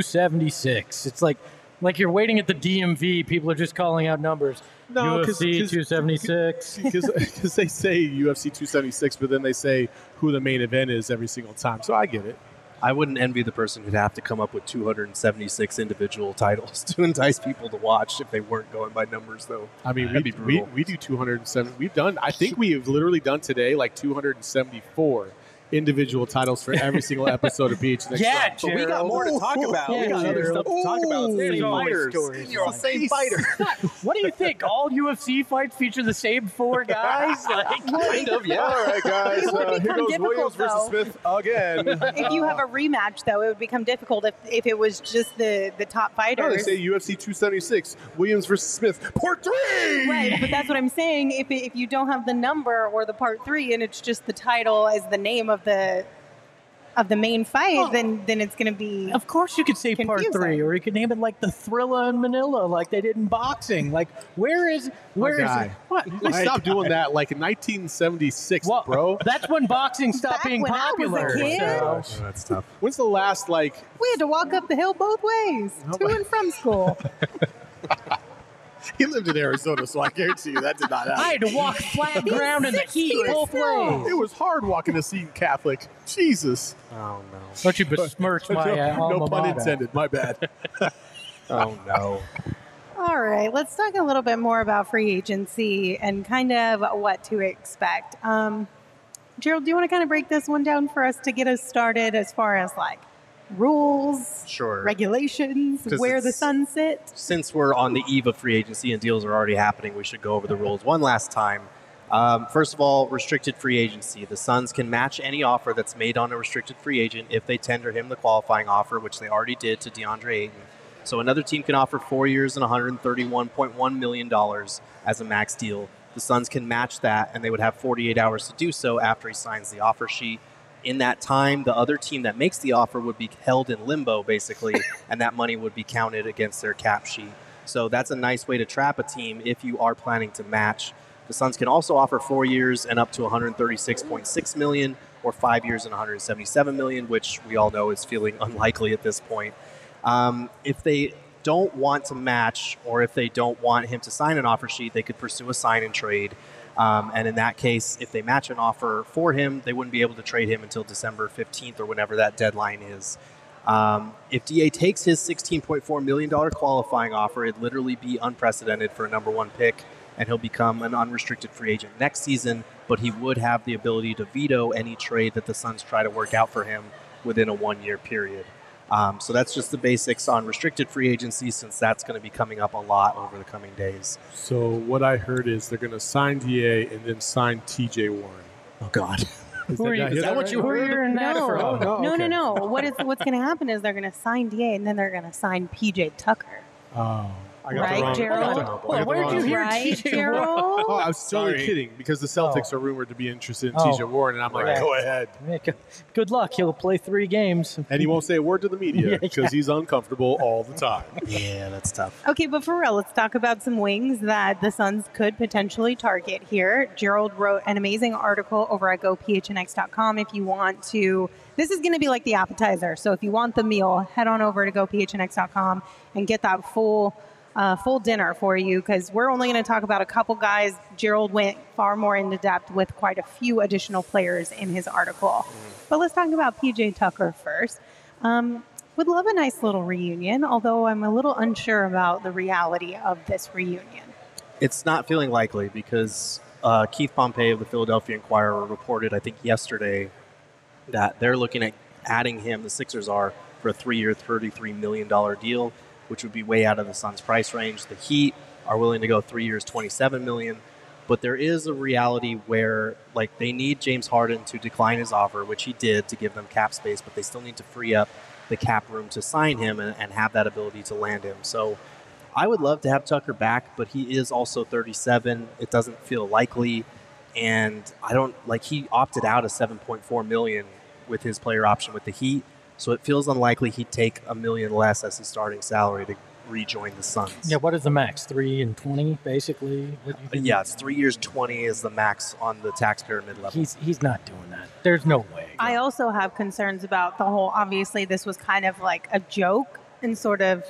276. It's like you're waiting at the DMV. People are just calling out numbers. No, UFC 276. Because they say UFC 276, but then they say who the main event is every single time. So I get it. I wouldn't envy the person who'd have to come up with 276 individual titles to entice people to watch if they weren't going by numbers, though. I mean, That'd be we brutal. do 207. We've done, I think we have literally done today like 274 individual titles for every single episode of PHNX. Yeah, But we got more to talk about. Yeah, we got other Gerald. stuff to talk about. It's the There's same always fighters. stories. You're the same fighter. What do you think? All UFC fights feature the same 4 guys? Like, Kind of, yeah. All right, guys. It would Here become goes difficult, Williams versus though. Smith again. If you have a rematch, though, it would become difficult if it was just the top No, they fighters. say UFC 276, Williams versus Smith, part 3. Right, but that's what I'm saying. If you don't have the number or the part 3, and it's just the title as the name of the main fight, then it's going to be. of course you could say part Confusing. 3, or you could name it like the Thrilla in Manila, like they did in boxing. Like, where is it? What? They stopped doing that like in 1976, Well, bro. that's when boxing stopped Back being when I was a popular. kid. so- Oh, that's tough. When's the last, like, We had to walk up the hill both ways, to and from school. he lived in Arizona, so I guarantee you that did not happen. I had to walk flat ground in the heat 60 both still. ways. It was hard walking to Seton Catholic. Jesus. Oh, no. Don't you besmirch my no alma pun mater. intended. My bad. Oh, no. All right, let's talk a little bit more about free agency and kind of what to expect. Gerald, do you want to kind of break this one down for us to get us started as far as like rules, Sure. regulations, 'Cause where the it's- sun sit? Since we're on the eve of free agency and deals are already happening, we should go over the rules one last time. First of all, restricted free agency. The Suns can match any offer that's made on a restricted free agent if they tender him the qualifying offer, which they already did to DeAndre Ayton. So another team can offer 4 years and $131.1 million as a max deal. The Suns can match that, and they would have 48 hours to do so after he signs the offer sheet. In that time, the other team that makes the offer would be held in limbo, basically, and that money would be counted against their cap sheet. So that's a nice way to trap a team if you are planning to match. The Suns can also offer 4 years and up to $136.6 million, or 5 years and $177 million, which we all know is feeling unlikely at this point. If they don't want to match, or if they don't want him to sign an offer sheet, they could pursue a sign and trade. And in that case, if they match an offer for him, they wouldn't be able to trade him until December 15th or whenever that deadline is. If DA takes his $16.4 million qualifying offer, it'd literally be unprecedented for a number one pick, and he'll become an unrestricted free agent next season, but he would have the ability to veto any trade that the Suns try to work out for him within a 1 year period. So that's just the basics on restricted free agency, since that's going to be coming up a lot over the coming days. So what I heard is they're going to sign DA and then sign TJ Warren. Oh, God. Is that what you heard? No. What's going to happen is they're going to sign DA and then they're going to sign PJ Tucker. Oh. I got Right, the wrong, Gerald? I got the- I got the Where wrong did you hear one. Right, TJ Gerald? Oh, I was totally Sorry. kidding because the Celtics are rumored to be interested in Oh. TJ Warren, and I'm like, Right. go ahead. Good luck. He'll play 3 games. And he won't say a word to the media because he's uncomfortable all the time. Yeah, that's tough. Okay, but for real, let's talk about some wings that the Suns could potentially target here. Gerald wrote an amazing article over at gophnx.com if you want to. This is going to be like the appetizer. So if you want the meal, head on over to gophnx.com and get that full dinner for you, because we're only going to talk about a couple guys. Gerald went far more into depth with quite a few additional players in his article. But let's talk about PJ Tucker first. Would love a nice little reunion, although I'm a little unsure about the reality of this reunion. It's not feeling likely because Keith Pompey of the Philadelphia Inquirer reported, I think yesterday, that they're looking at adding him, the Sixers are, for a 3-year, $33 million deal, which would be way out of the Suns' price range. The Heat are willing to go 3 years, $27 million. But there is a reality where, like, they need James Harden to decline his offer, which he did, to give them cap space, but they still need to free up the cap room to sign him and have that ability to land him. So I would love to have Tucker back, but he is also 37. It doesn't feel likely. And he opted out of $7.4 million with his player option with the Heat. So it feels unlikely he'd take $1 million less as his starting salary to rejoin the Suns. Yeah, what is the max? 3 and 20, basically? Yeah, it's 3 years, 20 is the max on the tax pyramid level. He's not doing that. There's no way. I also have concerns about the whole, obviously this was kind of like a joke and sort of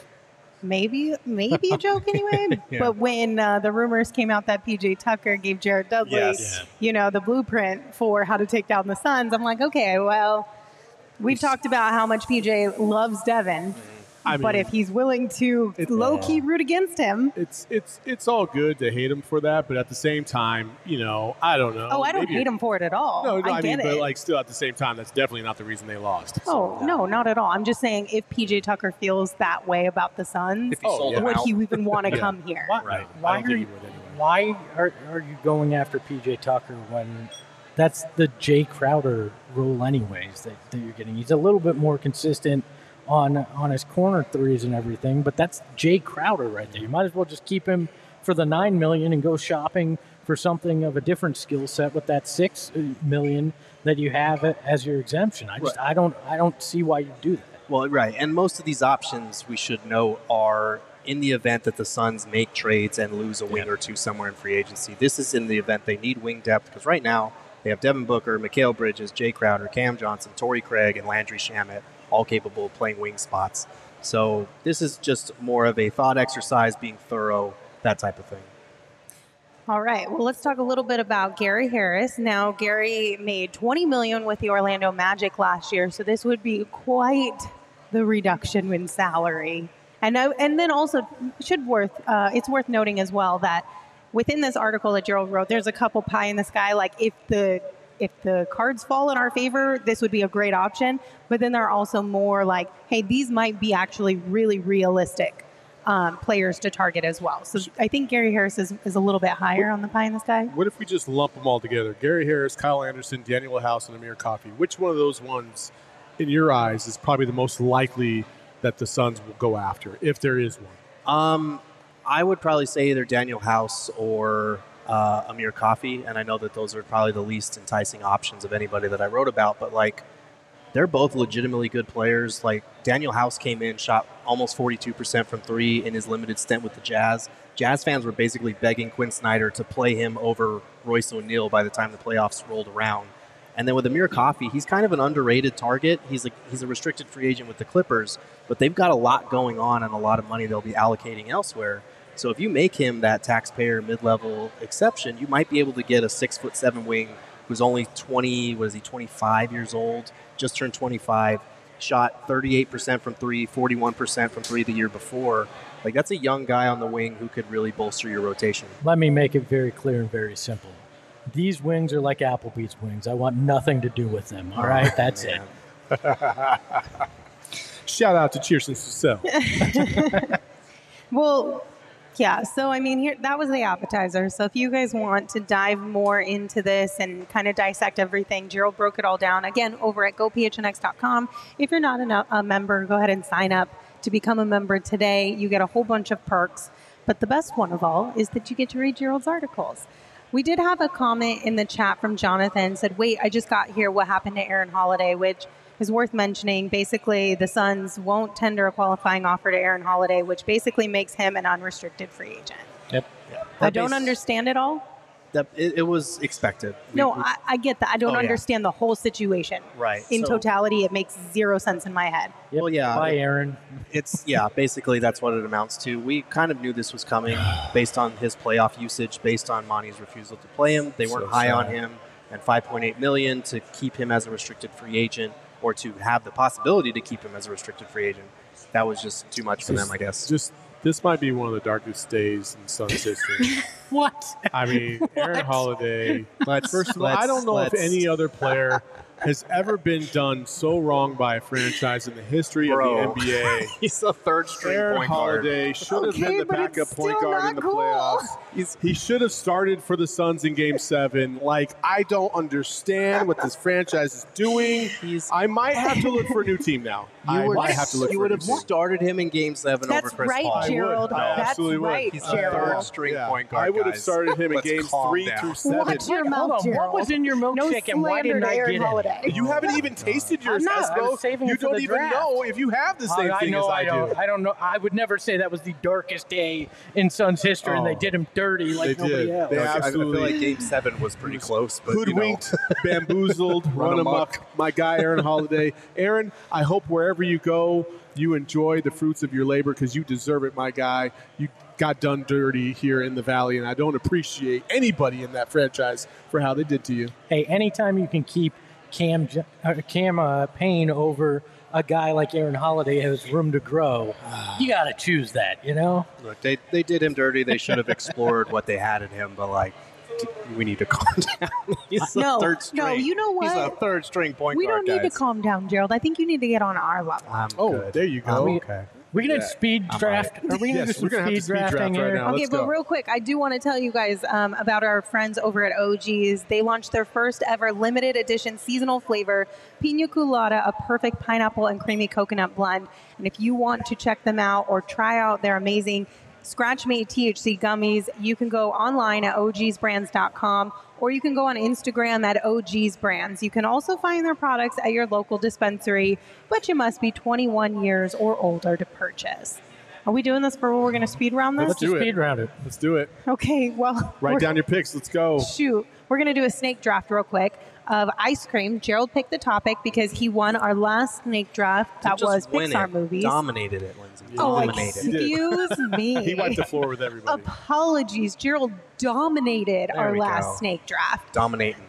maybe a joke anyway. Yeah. But when the rumors came out that PJ Tucker gave Jared Dudley, Yes. the blueprint for how to take down the Suns, I'm like, okay, well, we've talked about how much PJ loves Devin. But if he's willing to low-key root against him. It's all good to hate him for that, but at the same time, I don't know. Oh, I don't hate him for it at all. No, I get but it. still at the same time, that's definitely not the reason they lost. Oh, no, not at all. I'm just saying if PJ Tucker feels that way about the Suns, If he sold them would out. he even want to come here? Right. Why I don't think he would anyway. Why are you going after PJ Tucker when that's the Jay Crowder role anyways that you're getting? He's a little bit more consistent on his corner threes and everything, but that's Jay Crowder right there. You might as well just keep him for the $9 million and go shopping for something of a different skill set with that $6 million that you have as your exemption. I don't see why you do that. Well, right. And most of these options, we should know, are in the event that the Suns make trades and lose a wing or two somewhere in free agency. This is in the event they need wing depth, because right now they have Devin Booker, Mikal Bridges, Jay Crowder, Cam Johnson, Torrey Craig, and Landry Shamet, all capable of playing wing spots. So this is just more of a thought exercise, being thorough, that type of thing. All right. Well, let's talk a little bit about Gary Harris. Now, Gary made $20 million with the Orlando Magic last year, so this would be quite the reduction in salary. And then also it's worth noting as well that within this article that Gerald wrote, there's a couple pie in the sky. Like if the cards fall in our favor, this would be a great option. But then there are also more like, hey, these might be actually really realistic players to target as well. So I think Gary Harris is a little bit higher on the pie in the sky. What if we just lump them all together? Gary Harris, Kyle Anderson, Daniel House, and Amir Coffey. Which one of those ones, in your eyes, is probably the most likely that the Suns will go after, if there is one? I would probably say either Daniel House or Amir Coffey, and I know that those are probably the least enticing options of anybody that I wrote about, but like they're both legitimately good players. Like Daniel House came in, shot almost 42% from three in his limited stint with the Jazz. Jazz fans were basically begging Quinn Snyder to play him over Royce O'Neal by the time the playoffs rolled around. And then with Amir Coffey, he's kind of an underrated target. He's a restricted free agent with the Clippers, but they've got a lot going on and a lot of money they'll be allocating elsewhere. So if you make him that taxpayer mid-level exception, you might be able to get a 6'7" wing who's only 25 years old, just turned 25, shot 38% from three, 41% from three the year before. Like that's a young guy on the wing who could really bolster your rotation. Let me make it very clear and very simple. These wings are like Applebee's wings. I want nothing to do with them. All right, that's it. Shout out to Cheers and Cecile. Well, yeah, so I mean, that was the appetizer. So if you guys want to dive more into this and kind of dissect everything, Gerald broke it all down, again, over at gophnx.com. If you're not a member, go ahead and sign up to become a member today. You get a whole bunch of perks. But the best one of all is that you get to read Gerald's articles. We did have a comment in the chat from Jonathan, said, wait, I just got here. What happened to Aaron Holiday? Which is worth mentioning. Basically, the Suns won't tender a qualifying offer to Aaron Holiday, which basically makes him an unrestricted free agent. Yep. I don't understand it all. It was expected. I get that. I don't understand the whole situation. Right. In totality, it makes zero sense in my head. Yep. Well, yeah. Bye, Aaron. Basically that's what it amounts to. We kind of knew this was coming based on his playoff usage, based on Monty's refusal to play him. They weren't high on him, and $5.8 million to keep him as a restricted free agent, or to have the possibility to keep him as a restricted free agent. That was just too much for them, I guess. This might be one of the darkest days in Suns history. What? I mean, Aaron Holiday. First of all, I don't know if any other player has ever been done so wrong by a franchise in the history of the NBA. He's a third-string Aaron point guard. Holiday should have been the but it's backup point still guard not in the cool. playoffs. He should have started for the Suns in Game 7. Like, I don't understand what this franchise is doing. I might have to look for a new team now. You would have started him in Game 7 over That's Chris right, Paul. Gerald. I That's absolutely would. right, He's a Gerald. third-string point guard, I would have guys. started him in Let's Games calm 3 down. through 7. Watch your Hold mouth, on. What Gerald. was in your No milkshake and why slander didn't to I Aaron get Holiday. it? You haven't even tasted yours, I'm not. I Espo. was saving You it for don't the even draft. know if you have the same thing as I do. I don't know. I would never say that was the darkest day in Suns history, and they did him dirty like They nobody did. else. They I feel absolutely like Game 7 was pretty close, but hoodwinked, bamboozled, run amok. amok. My guy, Aaron Holiday. Aaron, I hope wherever you go, you enjoy the fruits of your labor because you deserve it, my guy. You got done dirty here in the Valley, and I don't appreciate anybody in that franchise for how they did to you. Hey, anytime you can keep Cam Payne over a guy like Aaron Holiday who has room to grow, you got to choose that, you know? Look, they did him dirty. They should have explored what they had in him, but like, we need to calm down. He's a No, third string. no, you know what? He's a third-string point We guard, don't need to guys. calm down, Gerald. I think you need to get on our level. I'm Oh, good. there you go. Okay. We're going to speed draft. Are we going to Yes, do some we're gonna have to speed speed draft drafting right here? now. Okay, let's but go. real quick, I do want to tell you guys about our friends over at OG's. They launched their first ever limited edition seasonal flavor, Pina Colada, a perfect pineapple and creamy coconut blend. And if you want to check them out or try out their amazing scratch-made THC gummies, you can go online at ogsbrands.com, or you can go on Instagram at ogsbrands. You can also find their products at your local dispensary, but you must be 21 years or older to purchase. Are we doing this for we're going to speed round this? Let's do it. Speed round it. Let's do it. Okay, well, Write we're- down your picks. Let's go. Shoot, we're going to do a snake draft real quick of ice cream. Gerald picked the topic because he won our last snake draft. That Just was win Pixar it. movies. Dominated it, Lindsay. Oh, Dominated. He did. excuse me. He wiped the floor with everybody. Apologies. Gerald dominated There our we last go. snake draft. Dominating.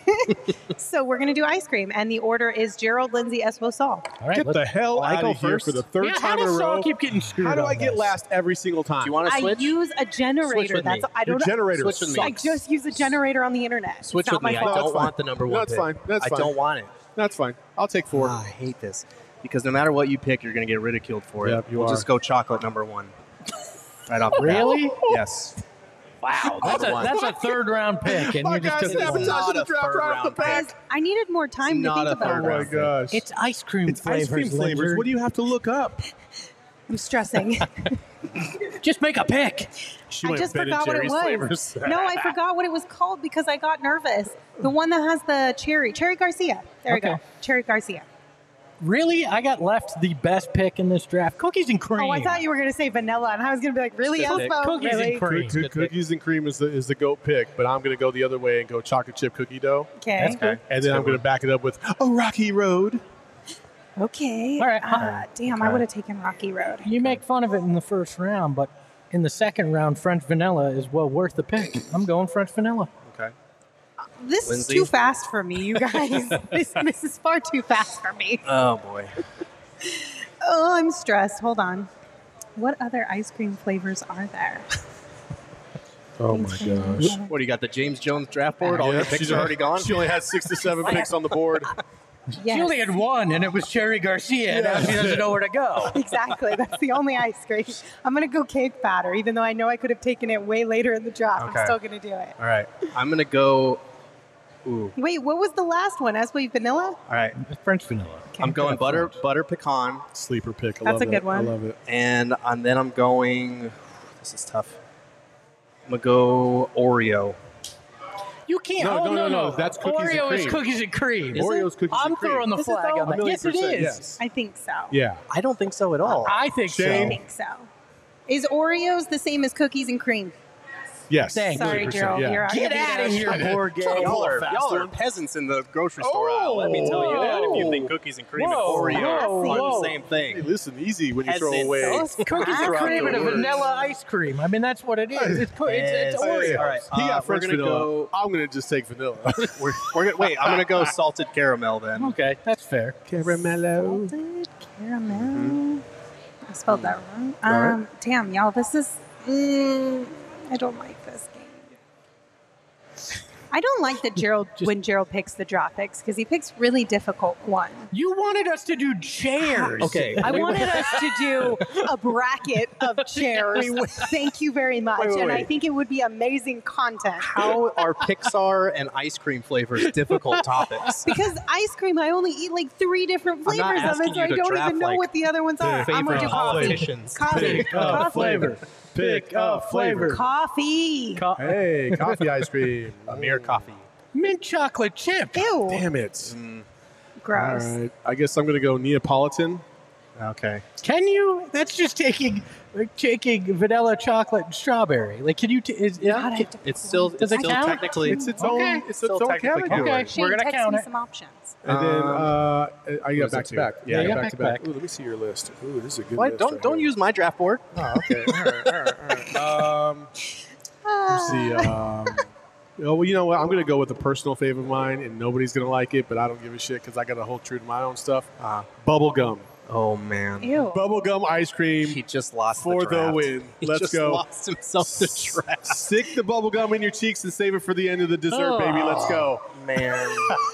So we're going to do ice cream, and the order is Gerald, Lindsay, Espo, Saul. All right, Get the hell I out go of here first? for the third Yeah, time how in a does Saul row. keep getting screwed How do on I get this? last every single time? Do you want to I switch? use a generator. with That's me. I Your don't. generator Switch with me. I sucks. just use a generator on the internet. Switch it's with not me. my I fault. don't That's fine. want the number one That's pick. fine. That's I fine. don't want it. That's fine. I'll take 4. I hate this because no matter what you pick, you're going to get ridiculed for it. Yep, you we'll are. just go chocolate number 1. Right off the bat. Really? Yes. Wow, that's a third round pick, and you just took it. Sabotage Not the a draft third right off round the bat. Guys, I needed more time to Not think a about third Oh my it. round. gosh. It's ice cream It's flavors. ice cream flavors. Lindsay. What do you have to look up? I'm stressing. Just make a pick. She I went just Ben and forgot what it Jerry's was. flavors. No, I forgot what it was called because I got nervous. The one that has the cherry Garcia. There we go. Okay. Cherry Garcia. Really, I got left the best pick in this draft: cookies and cream. Oh, I thought you were going to say vanilla, and I was going to be like, really, Just Espo? cookies and Really? cream. Good pick. Cookies and cream is the GOAT pick, but I'm going to go the other way and go chocolate chip cookie dough. Okay. That's good. And then I'm going to back it up with a Rocky Road. Okay. All right. Damn, I would have taken Rocky Road. You make fun of it in the first round, but in the second round, French vanilla is well worth the pick. I'm going French vanilla. Okay. This Lindsay? is too fast for me, you guys. this is far too fast for me. Oh boy. Oh, I'm stressed. Hold on. What other ice cream flavors are there? Oh my gosh. What do you got? The James Jones draft board? All your picks are already gone. She only had 6 to 7 picks on the board. Yes. She only had one, and it was Cherry Garcia. Now she doesn't know where to go. Exactly. That's the only ice cream. I'm going to go cake batter, even though I know I could have taken it way later in the draft. Okay. I'm still going to do it. All right. I'm gonna go. Ooh. Wait, what was the last one? Espo vanilla? All right. French vanilla. I'm going butter pecan, Sleeper pick. I That's love a good it. one. I love it. and then I'm going. This is tough. I'm gonna go Oreo. You can't. No. That's cookies and Oreo is cream. cookies and cream. Oreo's cookies I'm and cream. throwing the This is flag all- on that. Yes, it is. Yes. I think so. Yeah. I don't think so at all. I think Shane? I so. think so. Is Oreos the same as cookies and cream? Yes. Thank you. Sorry, 100%, Gerald. yeah. You're out. Get out of here, poor gay. Y'all are peasants in the grocery store aisle. Let me tell you that. If you think cookies and cream Whoa, and Oreo whoa. are the same Hey, thing. listen, easy when you throw Peasant. away. Those Cookies and classic. cream and a words. vanilla ice cream. I mean, that's what it is. It's Oreo. All right. He got we're French gonna vanilla. go. I'm going to just take vanilla. We're gonna wait. I'm gonna go salted caramel then. Okay, that's fair. Caramello. Salted caramel. I spelled that wrong. All right. Damn, y'all, this is. I don't like this game. I don't like that when Gerald picks the draw picks because he picks really difficult ones. You wanted us to do chairs. Okay. I wanted us to do a bracket of chairs. Thank you very much. Wait, and I wait. think it would be amazing content. How are Pixar and ice cream flavors difficult topics? Because ice cream, I only eat like 3 different I'm not flavors of asking it, so you I to don't draft, even know like, what the other ones are. I'm going to Favorite do coffee. politicians. Coffee. Pick a Coffee. flavor. Pick a flavor. Coffee. Hey, coffee ice cream. Amir coffee. Mint chocolate chip. Ew. Damn it. Gross. All right. I guess I'm going to go Neapolitan. Okay. Can you? That's just taking vanilla, chocolate, and strawberry. Like, can you? God, I have to It's still Does it count? technically It's its Okay. own. It's its Still own technically category. Okay. Shane, We're gonna text count me it. some options. And then I is got it back to two? back. Yeah, I yeah, got back to to back. back. Ooh, let me see your list. Ooh, this is a good What? list. Don't right don't here. use my draft board. Oh, okay. All right. Let's see. Oh, well, you know what? I'm going to go with a personal favorite of mine, and nobody's going to like it, but I don't give a shit because I got to hold true to my own stuff. Bubble gum. Oh man. Ew. Bubble gum ice cream He just lost for the, the draft. win. He Let's just go. Lost himself the draft. Stick the bubble gum in your cheeks and save it for the end of the dessert, baby. Let's go. Man,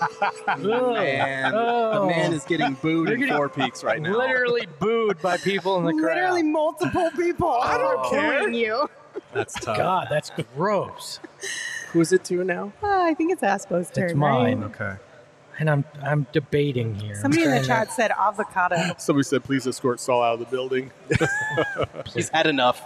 the man is getting booed in Four Peaks right now. Literally booed by people in the crowd. Literally multiple people. I don't care. You. That's tough. God, that's gross. Who's it to now? I think it's Aspo's turn. It's mine. Right? Okay. And I'm debating here. Somebody in the I'm trying chat said avocado. Somebody said, please escort Saul out of the building. He's had enough.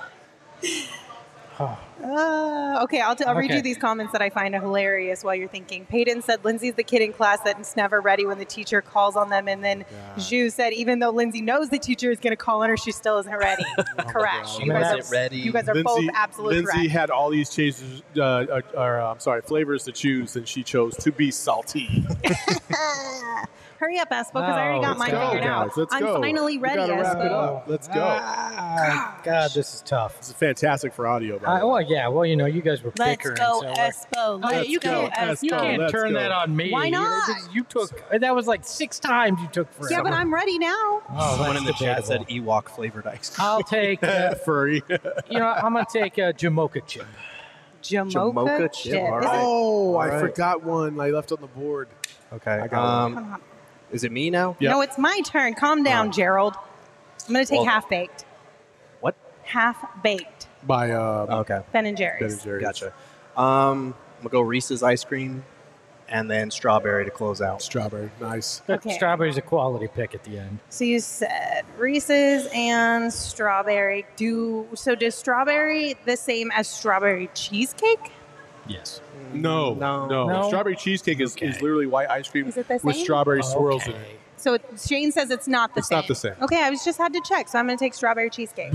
Okay, I'll read Okay. you these comments that I find hilarious while you're thinking. Peyton said Lindsay's the kid in class that's never ready when the teacher calls on them. And then Zhu said even though Lindsay knows the teacher is going to call on her, she still isn't ready. Correct. She You guys wasn't ready. You guys are both absolute Lindsay correct. had all these changes, flavors to choose, and she chose to be salty. Hurry up, Espo, because I already got mine Let's go, figured out. guys. Let's I'm go. finally We ready, gotta wrap it Espo. up. Let's go. God, this is tough. This is fantastic for audio. By the way. Well, yeah. Well, you know, you guys were Let's bickering. go, so we're- Espo. Let's you go, can't, Espo. you can't Let's turn go. that on me. Why You know, not? You took that was like 6 times you took for Yeah, but I'm ready now. Someone in the chat said Ewok flavored ice cream. I'll take. Furry. You know, I'm gonna take a Jamocha chip. Jamocha chip. all Is right. it- Oh, All I right. forgot one. I left on the board. Okay. I got Come on. Is it me now? Yep. No, it's my turn. Calm down, Gerald. I'm going to take Well- half baked. What? Half Baked, by Okay, Ben and Jerry's. Ben and Jerry's. gotcha. I'm gonna go Reese's ice cream, and then strawberry to close out. Strawberry, nice. Okay. Strawberry's a quality pick at the end. So you said Reese's and strawberry. Does strawberry the same as strawberry cheesecake? Yes. No, No. No? Strawberry cheesecake is Okay. literally white ice cream Is it the with same? strawberry swirls in Okay. it. So Shane says it's not the It's same. not the same. Okay, I just had to check, so I'm going to take strawberry cheesecake.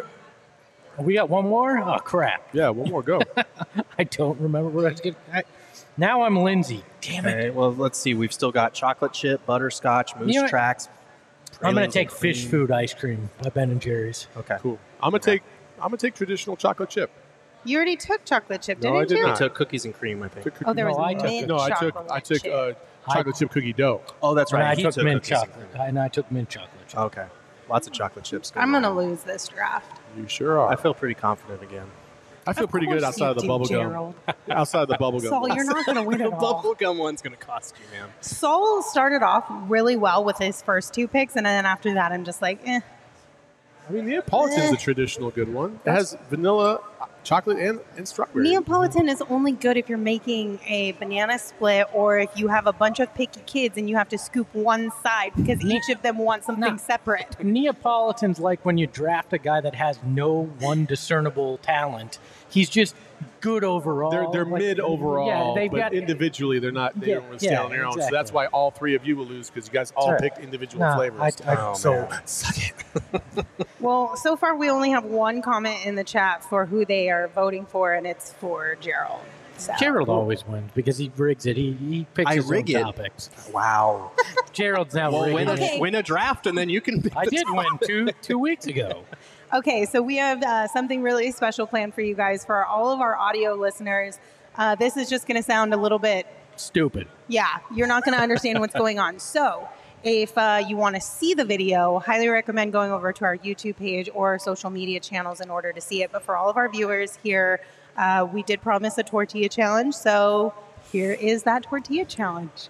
We got one more? Oh, crap. Yeah, one more go. I don't remember what I was getting. Now I'm Lindsay. Damn it. Okay, well, let's see. We've still got chocolate chip, butterscotch, moose You know what? tracks. I'm going pralines to take and fish cream. food ice cream by Ben and Jerry's. Okay. Cool. I'm gonna take traditional chocolate chip. You already took chocolate chip, No, didn't I did you? We not. took cookies and cream, I think. Took cookie- Oh, there was No, I took mint it. no, I took chocolate chip. chocolate chip cookie dough. Oh, that's And right. I You took mint cookies and chocolate. cream. And I took mint chocolate. Okay. Lots of chocolate chips. I'm going to on. lose this draft. You sure are. I feel pretty confident again. I feel pretty good outside of the bubble gum. Outside of the bubble gum. Saul, you're not going to win The at all. bubblegum one's going to cost you, man. Saul started off really well with his first two picks, and then after that, I'm just like, eh. I mean, Neapolitan's a traditional good one. It has vanilla, chocolate, and strawberry. Neapolitan is only good if you're making a banana split or if you have a bunch of picky kids and you have to scoop one side because each of them wants something No. separate. Neapolitan's like when you draft a guy that has no one discernible talent. He's just good overall. They're Like, mid overall, Yeah, they've but got individually they're not. They Yeah, don't really stand yeah, on their own. So exactly. that's why all three of you will lose because you guys all That's right. picked individual No, flavors. Oh, so man. suck it. Well, so far we only have one comment in the chat for who they are voting for, and it's for Gerald. So. Gerald always wins because he rigs it. He picks I his rig own it. topics. Wow. Gerald's now Well, rigging Okay. it. win a draft, and then you can. I did win two weeks ago. Okay, so we have something really special planned for you guys, for all of our audio listeners. This is just going to sound a little bit, Stupid. yeah, you're not going to understand what's going on. So if you want to see the video, highly recommend going over to our YouTube page or our social media channels in order to see it. But for all of our viewers here, we did promise a tortilla challenge. So here is that tortilla challenge.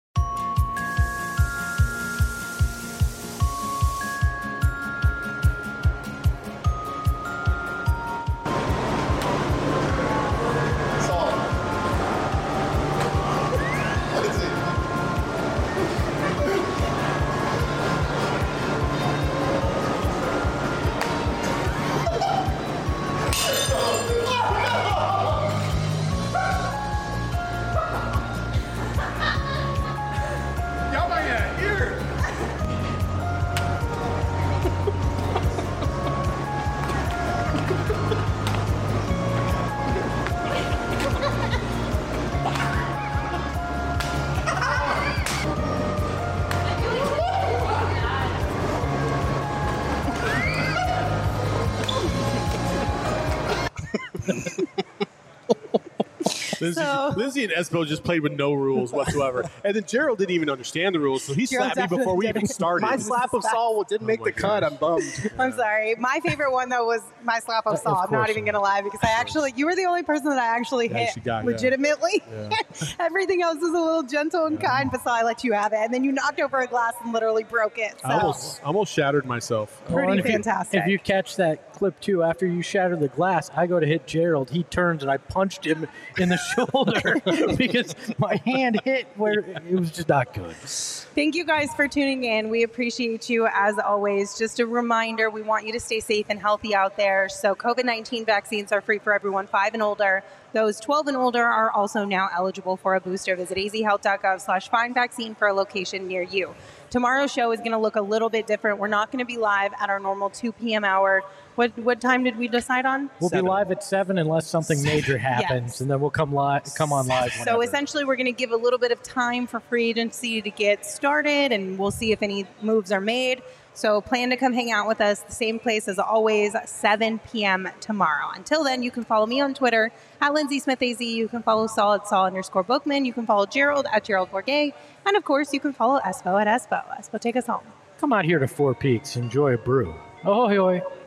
Lindsay and Espo just played with no rules whatsoever, and then Gerald didn't even understand the rules, so he Gerald slapped me before we definitely even started. My slap of Saul didn't make my the cut. gosh. I'm bummed. I'm sorry. My favorite one though was my slap of Saul. I'm not course even it going to lie because you were the only person that I actually Yeah, hit she got, yeah. legitimately. Yeah. Everything else was a little gentle and kind, but Saul, I let you have it. And then you knocked over a glass and literally broke it. So I almost shattered myself. pretty and if you- fantastic. If you catch that clip too, after you shatter the glass, I go to hit Gerald. He turns and I punched him in the shoulder because my hand hit where it was just not good. Thank you guys for tuning in. We appreciate you as always. Just a reminder, we want you to stay safe and healthy out there. So COVID-19 vaccines are free for everyone 5 and older. Those 12 and older are also now eligible for a booster. Visit azhealth.gov/find-vaccine for a location near you. Tomorrow's show is going to look a little bit different. We're not going to be live at our normal 2 p.m. hour. What time did we decide on? We'll 7. be live at 7 unless something major happens, Yes. and then we'll come on live. So whenever. essentially, we're going to give a little bit of time for free agency to get started, and we'll see if any moves are made. So plan to come hang out with us, the same place as always, 7 p.m. tomorrow. Until then, you can follow me on Twitter at Lindsay Smith AZ. You can follow Saul at Saul_Bookman. You can follow Gerald at Gerald Bourget. And of course, you can follow Espo at Espo. Espo, take us home. Come out here to Four Peaks, enjoy a brew. Ahoy, hoy.